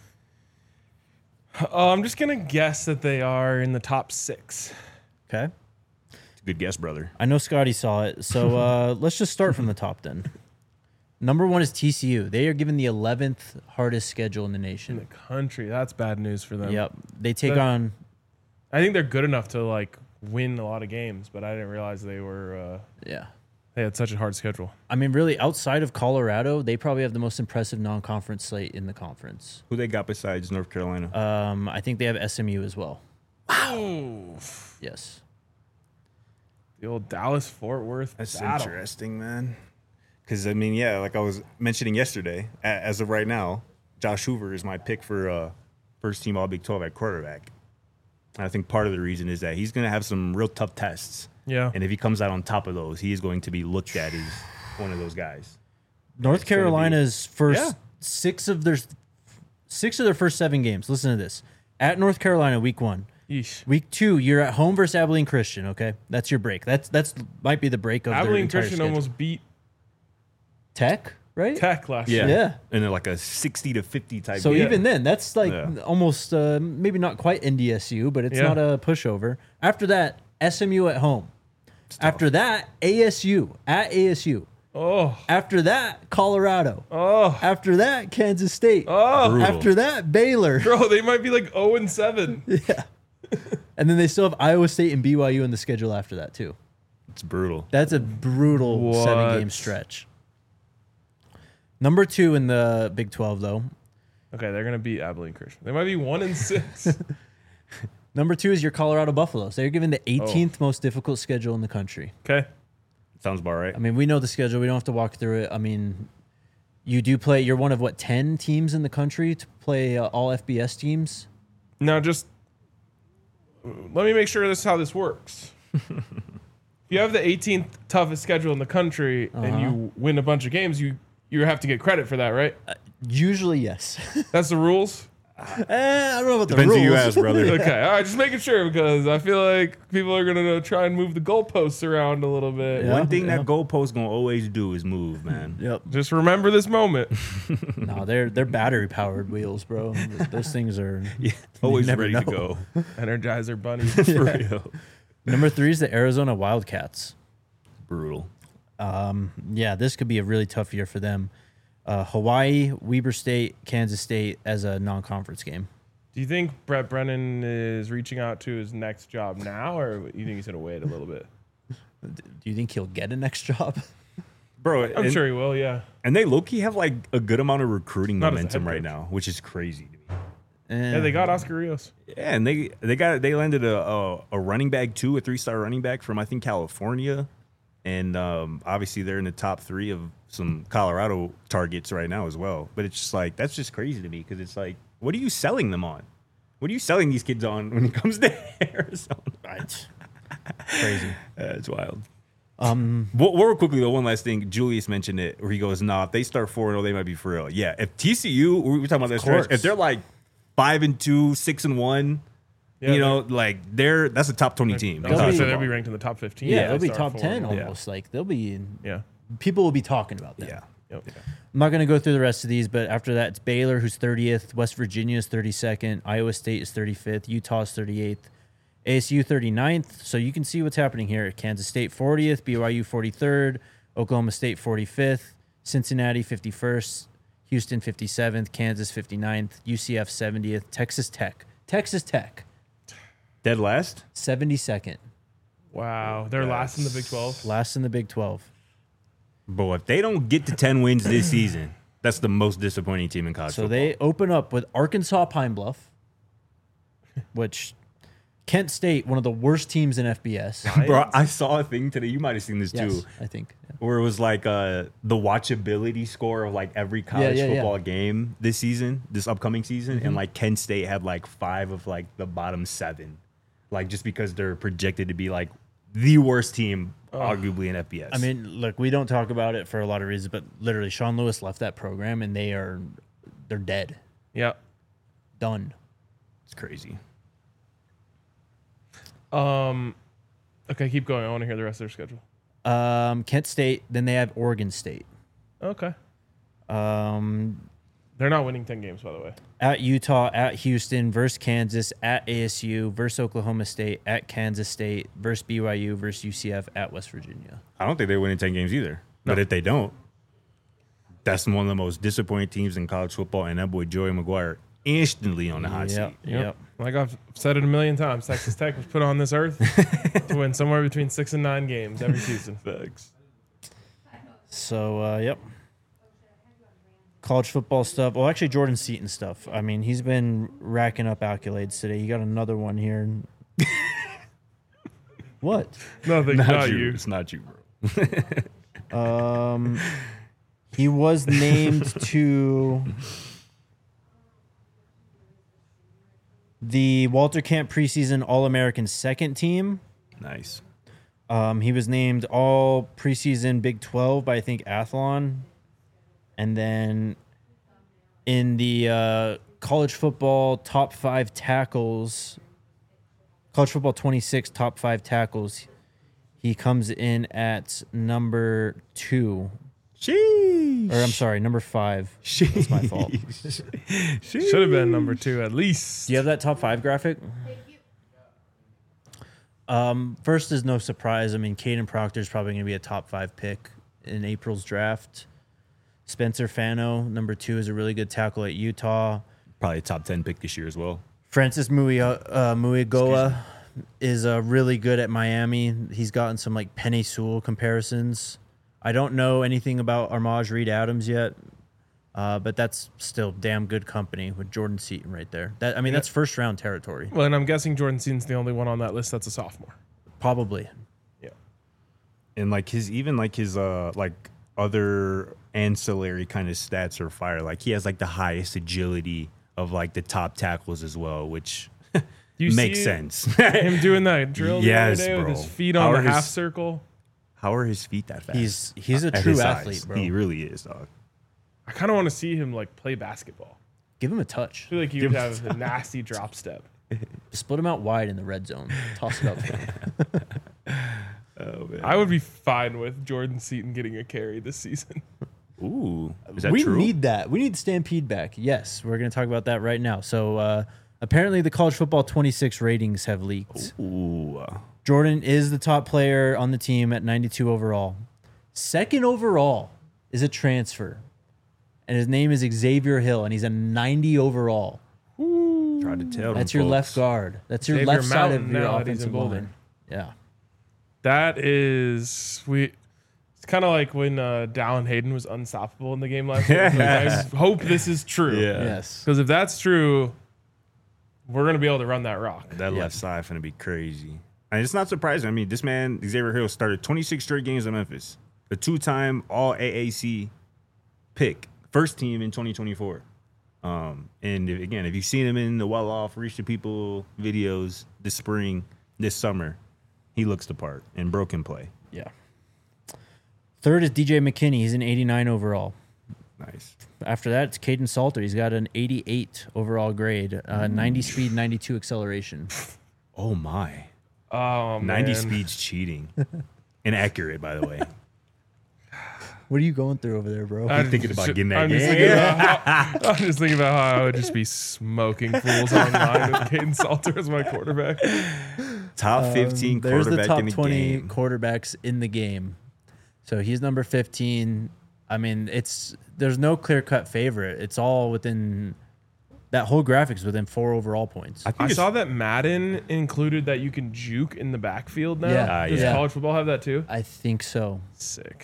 I'm just going to guess that they are in the top 6. Okay. Good guess, brother. I know Scotty saw it. So let's just start from the top then. Number 1 is TCU. They are given the 11th hardest schedule in the In nation. the country. That's bad news for them. Yep. They take on... I think they're good enough to like win a lot of games, but I didn't realize they were Yeah. they had such a hard schedule. I mean, really, outside of Colorado, they probably have the most impressive non-conference slate in the conference. Who they got besides North Carolina? I think they have SMU as well. Wow. Yes. The old Dallas Fort Worth That's battle. interesting, man. Because, I mean, yeah, like I was mentioning yesterday, as of right now, Josh Hoover is my pick for first team All Big 12 at quarterback. And I think part of the reason is that he's going to have some real tough tests. Yeah. And if he comes out on top of those, he is going to be looked at as one of those guys. North Carolina's first Yeah. 6 of their first 7 games. Listen to this. At North Carolina, week 1. Yeesh. Week 2, you're at home versus Abilene Christian, okay? That's your break. That's might be the break of their Abilene entire Christian schedule. almost beat Tech, right? Tech last year. Yeah. And then like a 60 to 50 type So game. even then, that's like Yeah. almost maybe not quite NDSU, but it's Yeah. not a pushover. After that, SMU at home. After that, ASU at ASU. Oh. After that, Colorado. Oh. After that, Kansas State. Oh. Brutal. After that, Baylor. Bro, they might be like 0-7. And then they still have Iowa State and BYU in the schedule after that, too. It's brutal. That's a brutal What? 7-game stretch. Number 2 in the Big 12, though. Okay, they're gonna beat Abilene Christian. They might be 1-6. Number 2 is your Colorado Buffaloes. They're given the 18th most difficult schedule in the country. Okay. Sounds about right. I mean, we know the schedule. We don't have to walk through it. I mean, you do play. You're one of, 10 teams in the country to play all FBS teams? Now just let me make sure this is how this works. If you have the 18th toughest schedule in the country and you win a bunch of games, you have to get credit for that, right? Usually, yes. That's the rules? I don't know about the Depends rules. who you ask, brother. Okay, all right, just making sure because I feel like people are gonna try and move the goalposts around a little bit. Yeah. One thing that goalpost gonna always do is move, man. Yep. Just remember this moment. No, they're battery powered wheels, bro. Those things are Always never ready know. to go. Energizer bunny. For real. Number 3 is the Arizona Wildcats. Brutal. Yeah, this could be a really tough year for them. Hawaii, Weber State, Kansas State as a non-conference game. Do you think Brett Brennan is reaching out to his next job now, or you think he's gonna wait a little bit? Do you think he'll get a next job? Bro, I'm sure he will. Yeah. And they low-key have like a good amount of recruiting Not as a momentum head right coach. now, which is crazy to me. Yeah, they got Oscar Rios. Yeah, and they landed a running back too, a 3-star running back from I think California, and obviously they're in the top 3 of some Colorado targets right now as well. But it's just like that's just crazy to me because it's like, what are you selling them on? What are you selling these kids on when it comes to Arizona? Crazy. It's wild. Real quickly though, one last thing. Julius mentioned it where he goes, "Nah, if they start 4-0, they might be for real." Yeah, if TCU, we were talking about that stretch, if they're like 5-2, 6-1, Yeah, you know, like that's a top 20 team. I was gonna They'll say be- they'll be ranked in the top 15. Yeah, if they'll they be start top 10 4-0. almost. Like they'll be. Yeah. People will be talking about that. Yeah. Yep. I'm not going to go through the rest of these, but after that, it's Baylor, who's 30th. West Virginia is 32nd. Iowa State is 35th. Utah is 38th. ASU 39th. So you can see what's happening here. Kansas State 40th. BYU 43rd. Oklahoma State 45th. Cincinnati 51st. Houston 57th. Kansas 59th. UCF 70th. Texas Tech. Dead last. 72nd. Wow, they're last in the Big 12. Last in the Big 12. Bro, if they don't get to 10 wins this season, that's the most disappointing team in college So football. they open up with Arkansas Pine Bluff, which Kent State, one of the worst teams in FBS. Bro, I saw a thing today. You might have seen this Yes, too. I think. Yeah. Where it was like the watchability score of like every college football game this upcoming season, and like Kent State had like 5 of like the bottom 7, like just because they're projected to be like the worst team arguably in FBS. I mean, look, we don't talk about it for a lot of reasons, but literally, Sean Lewis left that program, and they're dead, Yep. done. it's crazy. Okay, keep going. I want to hear the rest of their schedule. Kent State, then they have Oregon State. Okay. Um, They're not winning 10 games, by the way. at Utah, at Houston, versus Kansas, at ASU, versus Oklahoma State, at Kansas State, versus BYU, versus UCF, at West Virginia. I don't think they win in 10 games either. But if they don't, that's one of the most disappointing teams in college football, and that boy Joey McGuire instantly on the hot seat. Yep. Like I've said it a million times, Texas Tech was put on this earth to win somewhere between 6 and 9 games every season. Facts. So, yep. College football stuff. Well, actually, Jordan Seaton stuff. I mean, he's been racking up accolades today. He got another one here. What? Nothing, not you. It's not you, bro. He was named to the Walter Camp preseason All-American second team. Nice. He was named all preseason Big 12 by, I think, Athlon. And then in the college football top 5 tackles, college football 26 top 5 tackles, he comes in at number 2. Sheesh. Or I'm sorry, number 5. That's my fault. Should have been number 2 at least. Do you have that top 5 graphic? First is no surprise. I mean, Caden Proctor is probably going to be a top 5 pick in April's draft. Spencer Fano, number 2, is a really good tackle at Utah. Probably a top 10 pick this year as well. Francis Muigoa is really good at Miami. He's gotten some like Penei Sewell comparisons. I don't know anything about Armaj Reed Adams yet, but that's still damn good company with Jordan Seaton right there. That's first round territory. Well, and I'm guessing Jordan Seaton's the only one on that list that's a sophomore. Probably. Yeah. And like his other ancillary kind of stats are fire. Like he has like the highest agility of like the top tackles as well, which You makes see sense. Him doing that drill the other Yes, day with bro. his feet on the How are half his- circle. How are his feet that fast? He's a At true his athlete, size. bro. He really is, dog. I kind of want to see him like play basketball. Give him a touch. I feel like he would have a nasty drop step. Split him out wide in the red zone. Toss it up for him. Oh man. I would be fine with Jordan Seaton getting a carry this season. Ooh, is that We true? need that. We need Stampede back. Yes, we're going to talk about that right now. So apparently the college football 26 ratings have leaked. Ooh. Jordan is the top player on the team at 92 overall. Second overall is a transfer, and his name is Xavier Hill, and he's a 90 overall. Try to tell. That's them your left folks. guard. That's your Xavier left side of Mountain your now that he's in offensive Boulder. line. Yeah. That is It's kind of like when Dallin Hayden was unstoppable in the game last year. I hope this is true. Yeah. Yes. Because if that's true, we're gonna be able to run that rock. That left side finna be crazy. And it's not surprising. I mean, this man, Xavier Hill, started 26 straight games in Memphis. A 2-time All AAC pick. First team in 2024. And if you've seen him in the well-off, Reach the People videos this spring, this summer, he looks the part and broken play. Yeah. Third is DJ McKinney. He's an 89 overall. Nice. After that, it's Caden Salter. He's got an 88 overall grade, 90 speed, 92 acceleration. Oh, my. Oh, 90 man. speed's cheating. Inaccurate, by the way. What are you going through over there, bro? I'm thinking about getting that I'm just game. thinking I'm just thinking about how I would just be smoking fools online with Caden Salter as my quarterback. Top 15 There's quarterback the top in the 20 game. quarterbacks in the game. So he's number 15. I mean, there's no clear-cut favorite. It's all within That whole graphics within 4 overall points. think I it's- saw that Madden included that you can juke in the backfield now. Yeah. Does Yeah. college football have that too? I think so. Sick.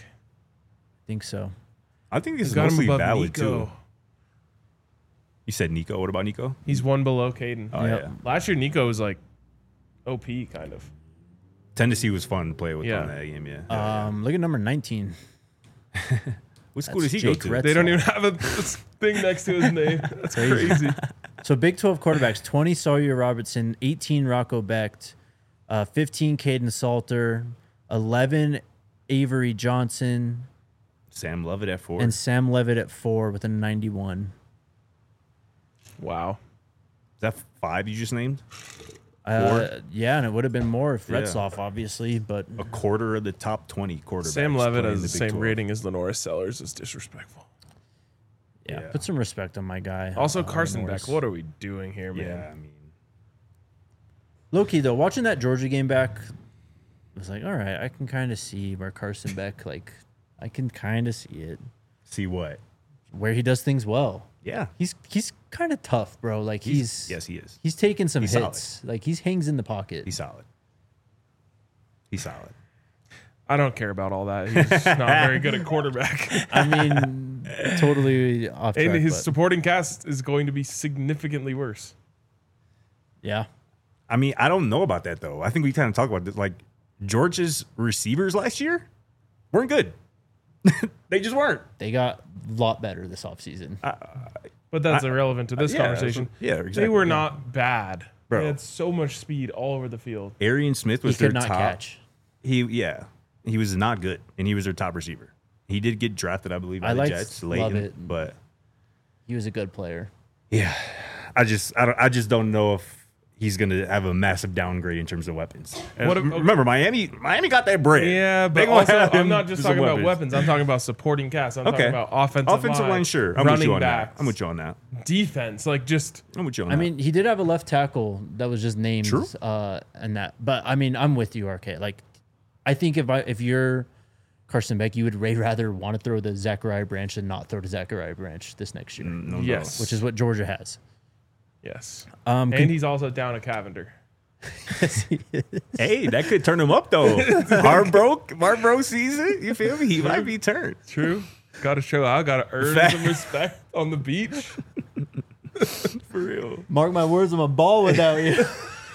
I think it's Got him mostly above valid Nico. too. You said Nico. What about Nico? He's one below Caden. Oh Yep. yeah. Last year, Nico was like OP kind of. Tennessee was fun to play with Yeah. on that game. Yeah. Look at number 19. What school that's does he go Jake to? Retz. They don't even have a thing next to his name. That's crazy. So Big 12 quarterbacks, 20 Sawyer Robertson, 18 Rocco Becht, 15 Caden Salter, 11 Avery Johnson, Sam Lovett at 4. and Sam Levitt at 4 with a 91. Wow. Is that 5 you just named? Yeah, and it would have been more if Yeah. Retzloff, obviously, but A quarter of the top 20 quarterbacks. Sam Levitt playing has the Big same 12. rating as Lenora Sellers is disrespectful. yeah, Yeah. put some respect on my guy. Also, Carson Norris. Beck. What are we doing here, man? Yeah, I mean, Low-key, though, watching that Georgia game back, I was like, all right, I can kind of see where Carson Beck, like, I can kind of see it, see what? where he does things well. Yeah. He's kind of tough, bro. Like, Yes, he is. He's taking some He's hits. Like, he hangs in the pocket. He's solid. He's solid. I don't care about all that. He's just not very good at quarterback. I mean, totally off track. And his but supporting cast is going to be significantly worse. yeah. I mean, I don't know about that, though. I think we kind of talked about this. Like, Georgia's receivers last year weren't good. They just weren't. They got a lot better this offseason. But that's irrelevant to this yeah, conversation. yeah, They exactly, were yeah. not bad. Bro. They had so much speed all over the field. Arian Smith He was their could not top. catch. He was not good, and he was their top receiver. He did get drafted, I believe, by I the liked Jets late, Lovett. but He was a good player. yeah, I just don't know if he's gonna have a massive downgrade in terms of weapons. What if- Remember, Miami got that bread. Yeah, They but gonna also, have I'm him not just with some talking about weapons. I'm talking about supporting cast. I'm Okay. talking about offensive Offensive line, sure. I'm with running you on backs, that. I'm with you on that. defense. Like, just I'm with you on I that. mean, he did have a left tackle that was just named. True. And that. But, I mean, I'm with you, RK. Like, I think if you're Carson Beck, you would rather want to throw the Zachariah Branch than not throw to Zachariah Branch this next year, No, yes, which is what Georgia has. yes. Con- And he's also down a Cavender. hey, that could turn him up though. Heart broke season. You feel me? He might be turned. True. Got to show out. Got to earn some respect on the beach. For real. Mark my words, I'm a ball without you.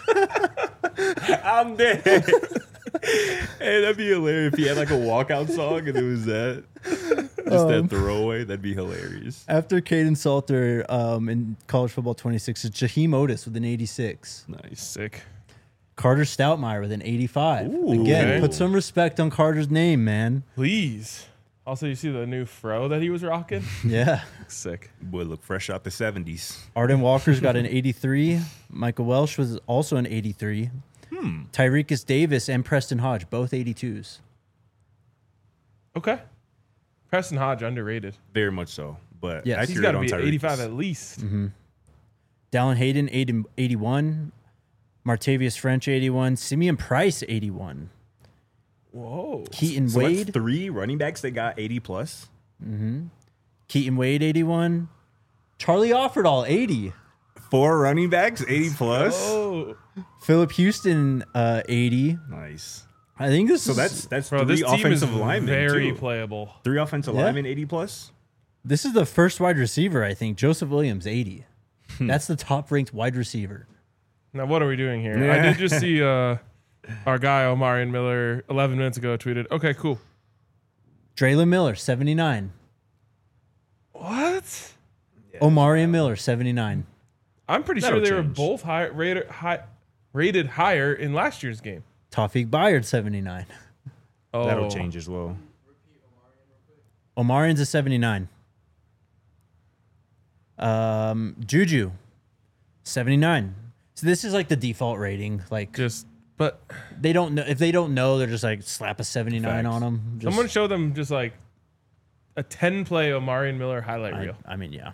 I'm dead. Hey, that'd be hilarious if he had like a walkout song and it was that. Just that throwaway. That'd be hilarious. After Caden Salter in college football 26, it's Jaheim Otis with an 86. Nice. Sick. Carter Stoutmeyer with an 85. Ooh. Again, Okay. put some respect on Carter's name, man. Please. Also, you see the new fro that he was rocking? Yeah. Sick. Boy, look fresh out the 70s. Arden Walker's got an 83. Michael Welsh was also an 83. Tyrekus Davis and Preston Hodge, both 82s. Okay. Preston Hodge, underrated. Very much so. But Yes. He's accurate got to on be Tyreek. 85 at least. Dallin Hayden, 81. Martavius French, 81. Simeon Price, 81. Whoa. Keaton So that's Wade. 3 running backs that got 80 plus. Keaton Wade, 81. Charlie Offerdahl, 80. 4 running backs, 80 plus. Oh. Philip Houston, 80. Nice. I think this So is that's Bro, 3 this team is offensive linemen very too. playable. 3 offensive Yeah. linemen, 80 plus. this is the first wide receiver, I think. Joseph Williams, 80. That's the top ranked wide receiver. Now, what are we doing here? Yeah. I did just see our guy, Omarion Miller, 11 minutes ago tweeted, okay, cool. Draylon Miller, 79. What? Omarion Miller, 79. I'm pretty That'll sure they were change. both rated higher in last year's game. Tawfiq Bayard, 79. Oh, That'll change as well. Omarion's a 79. Juju, 79. So this is like the default rating. Like But they don't know if they don't know, they're just like slap a 79 Facts. on them. Just, someone show them just like a 10-play Omarion Miller highlight reel. I mean, yeah.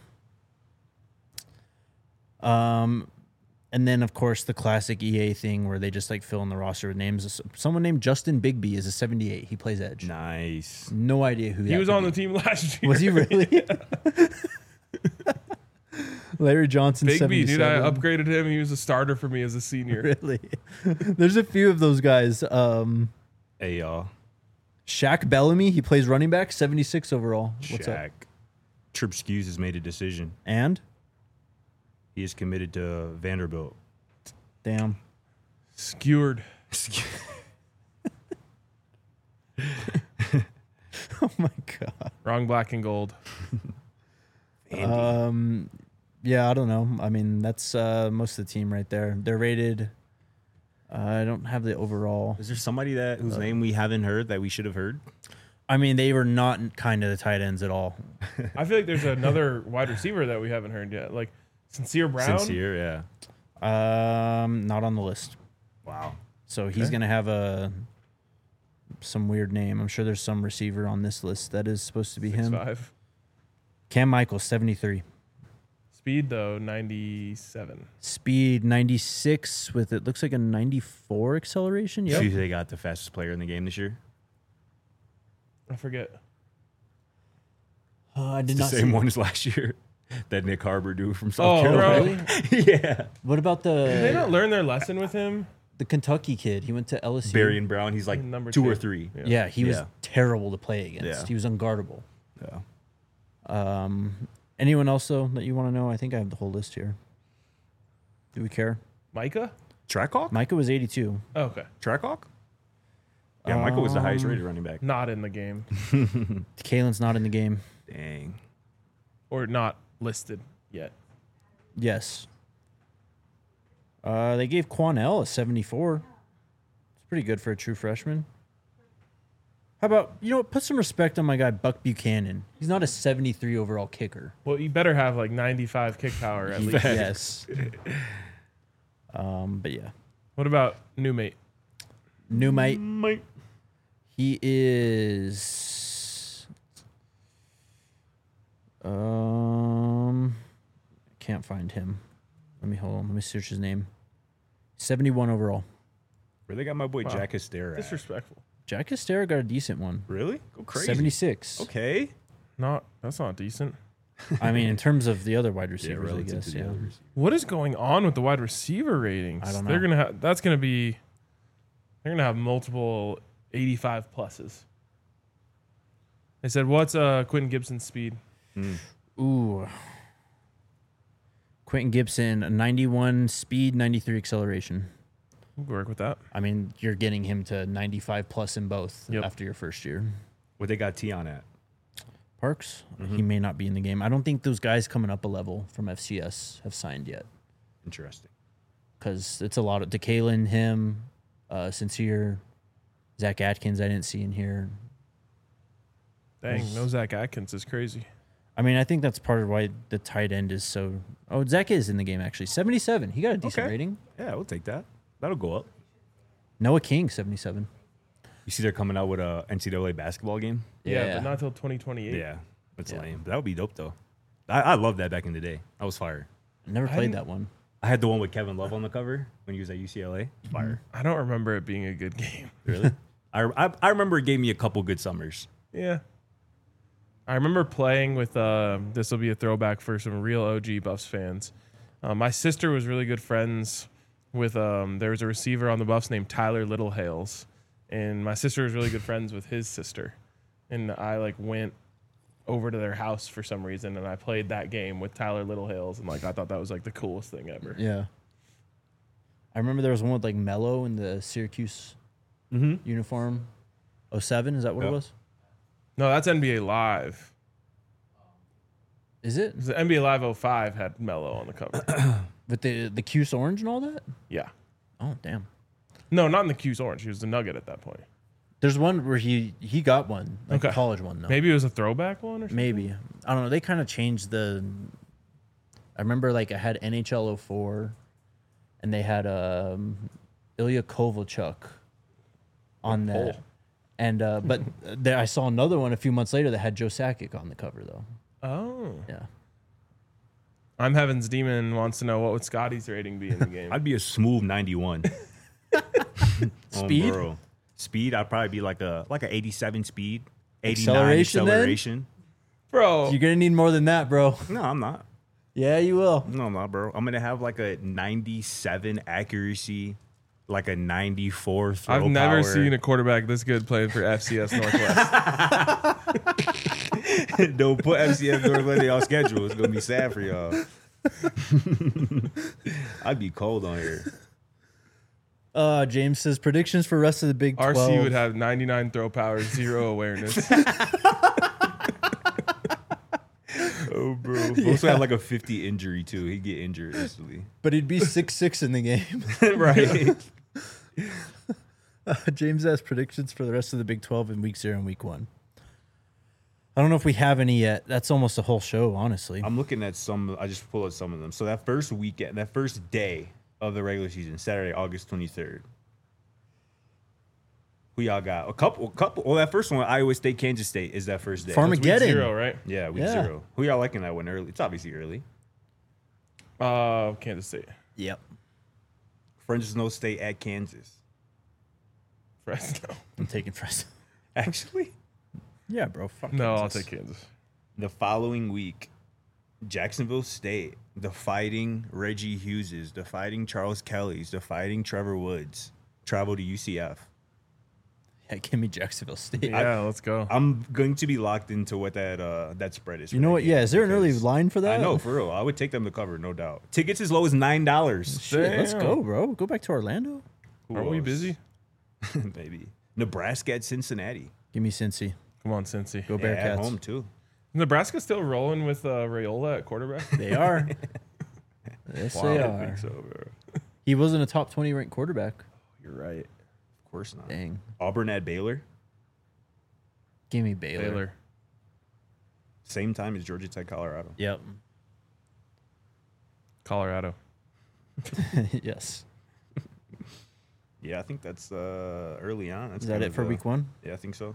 And then of course the classic EA thing where they just like fill in the roster with names. Someone named Justin Bigby is a 78. He plays edge. Nice. No idea who He that was could on be. the team last year. Was he really? Larry Johnson, Big B, dude, I 77. upgraded him. He was a starter for me as a senior. Really? There's a few of those guys. Hey, y'all. Shaq Bellamy, he plays running back, 76 overall. What's up? Shaq. Trubsky has made a decision. And? He is committed to Vanderbilt. Damn. Skewered. Oh, my God. Wrong black and gold. Yeah, I don't know. I mean, that's most of the team right there. They're rated. I don't have the overall. Is there somebody whose name we haven't heard that we should have heard? I mean, they were not kind of the tight ends at all. I feel like there's another wide receiver that we haven't heard yet. Like Sincere Brown. Sincere, yeah. Not on the list. Wow. So he's going to have some weird name. I'm sure there's some receiver on this list that is supposed to be him. 6'5". Cam Michaels, 73. Speed, though, 97. Speed, 96 with it looks like a 94 acceleration. See Yep. if they got the fastest player in the game this year. I forget. I did The not same see one as last year that Nick Harbor do from Oh, South bro. Carolina. Yeah. What about Did they not the learn their lesson with him? Kentucky kid? He went to LSU. Barian Brown, he's like Number 2 or two. 3. Yeah, he was Yeah. terrible to play against. Yeah. He was unguardable. Yeah. Anyone else though that you want to know? I think I have the whole list here. Do we care? Micah? Trackhawk? Micah was 82. Oh, okay. Trackhawk? Yeah, Michael was the highest rated running back. Not in the game. Kalen's not in the game. Dang. Or not listed yet. Yes. They gave Quanell a 74. It's pretty good for a true freshman. How about, you know what, put some respect on my guy Buck Buchanan. He's not a 73 overall kicker. Well, you better have like 95 kick power at least. Yes. But yeah. What about new mate? New mate. Mike. He is can't find him. Hold on. Let me search his name. 71 overall. Where they got my boy Wow. Jack Estera at? Disrespectful. Jack Estera got a decent one. Really? Go crazy. 76. Okay. That's not decent. I mean, in terms of the other wide receivers, I relative guess. to the Yeah. others. What is going on with the wide receiver ratings? I don't They're know. gonna have they're gonna have multiple 85 pluses. They said, what's Quentin Gibson's speed? Ooh. Quentin Gibson, a 91 speed, 93 acceleration. We'll work with that. I mean, you're getting him to 95 plus in both Yep. after your first year. What they got Tion at? Parks, he may not be in the game. I don't think those guys coming up a level from FCS have signed yet Interesting. because it's a lot of DeKalen, him, Sincere, Zach Atkins. I didn't see in here. Dang, no Zach Atkins is crazy. I mean, I think that's part of why the tight end is so. Oh, Zach is in the game actually. 77. He got a decent Okay. rating. Yeah, we'll take that. That'll go up. Noah King, 77. You see they're coming out with a NCAA basketball game? Yeah, but not till 2028. Yeah. That's Yeah. lame. But that would be dope, though. I loved that back in the day. That was fire. Never played didn't- that one. I had the one with Kevin Love on the cover when he was at UCLA. Fire. I don't remember it being a good game. Really? I remember it gave me a couple good summers. Yeah. I remember playing with, this will be a throwback for some real OG Buffs fans. My sister was really good friends with, there was a receiver on the Buffs named Tyler Littlehales. And my sister was really good friends with his sister. And I went over to their house for some reason and I played that game with Tyler Littlehales. And I thought that was the coolest thing ever. Yeah. I remember there was one with Mello in the Syracuse uniform. 07, is that what it Yep. was? No, that's NBA Live. Is it? The NBA Live 05 had Mello on the cover. With the Cuse orange and all that? Yeah. Oh, damn. No, not in the Q's orange. He was the Nugget at that point. There's one where he got one, like Okay. a college one though. Maybe it was a throwback one or something. Maybe. I don't know. They kind of changed the. I remember I had NHL 04, and they had Ilya Kovalchuk on that. pull. And but I saw another one a few months later that had Joe Sakic on the cover though. Oh. Yeah. I'm Heaven's Demon wants to know what would Scotty's rating be in the game. I'd be a smooth 91. Speed? Bro. Speed, I'd probably be like a 87 speed. 89 Acceleration then? acceleration. Bro, You're gonna need more than that, bro. No, I'm not. Yeah, you will. No, bro. I'm gonna have like a 97 accuracy, like a 94 throw I've never power. seen a quarterback this good playing for FCS Northwest. Don't put FCS Northwest on schedule. It's gonna be sad for y'all. I'd be cold on here. James says predictions for rest of the Big 12. RC would have 99 throw power, 0 awareness. Oh, bro. Also have like a 50 injury too. He'd get injured instantly. but he'd be 6'6" in the game. Right. James has predictions for the rest of the Big 12 in Week 0 and Week 1. I don't know if we have any yet. That's almost a whole show, honestly. I'm looking at some. I just pulled out some of them. So that first weekend, that first day of the regular season, Saturday, August 23rd. Who y'all got? A couple. Well, that first one, Iowa State, Kansas State, is that first day. Week Farmageddon. 0, right? Yeah, week Yeah. 0. Who y'all liking that one early? It's obviously early. Kansas State. Yep. Fresno State at Kansas. Fresno. I'm taking Fresno. Actually, Yeah, bro. Fuck No, I'll Kansas. take Kansas. the following week, Jacksonville State, the Fighting Reggie Hugheses, the Fighting Charles Kellys, the Fighting Trevor Woods travel to UCF. Yeah, give me Jacksonville State. Yeah, let's go. I'm going to be locked into what that spread is. You for know that what? game Yeah, is there an early because line for that? I know, for real. I would take them to cover, no doubt. Tickets as low as $9. Shit, let's Damn. go, bro. Go back to Orlando. Who Are we else? busy? Maybe. Nebraska at Cincinnati. Give me Cincy. Come on, Cincy. Go Yeah, at Bearcats. home, too. Nebraska still rolling with Raiola at quarterback? They are. Yes, they I are. think so, bro. He wasn't a top 20 ranked quarterback. You're right. Of course not. Dang. Auburn at Baylor. Give me Baylor. Baylor. Same time as Georgia Tech, Colorado. Yep. Colorado. Yes. Yeah, I think that's early on. That's Is that kind it of for Week 1? Yeah, I think so.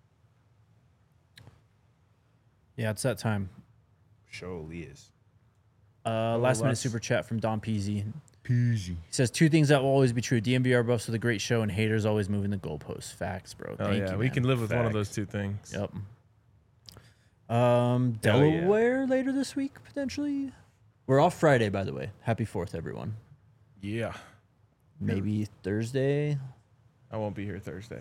Yeah, it's that time. Show Elias. Last minute less. super chat from Don Peasy. Peasy. He says 2 things that will always be true: DMVR buffs with a great show, and haters always moving the goalposts. Facts, bro. Oh, Thank yeah. you, We man. can live with one of Facts. those two things. Yep. yeah. Delaware later this week potentially. We're off Friday, by the way. Happy 4th, everyone. Yeah. Maybe Thursday. I won't be here Thursday.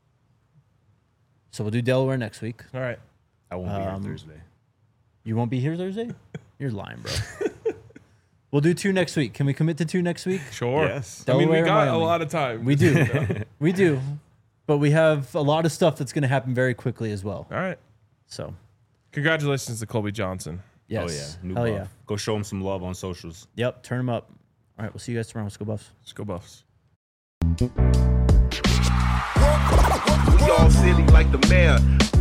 So we'll do Delaware next week. All right. I won't be here Thursday. You won't be here Thursday? You're lying, bro. We'll do 2 next week. Can we commit to 2 next week? Sure. Yes. I mean, we Delaware, got Miami. a lot of time. We do. We do. But we have a lot of stuff that's going to happen very quickly as well. All right. So, Congratulations to Colby Johnson. yes. Oh, yeah. New Hell buff. yeah. Go show him some love on socials. Yep. Turn them up. All right. We'll see you guys tomorrow. Let's go Buffs. Let's go Buffs. We all silly like the mayor.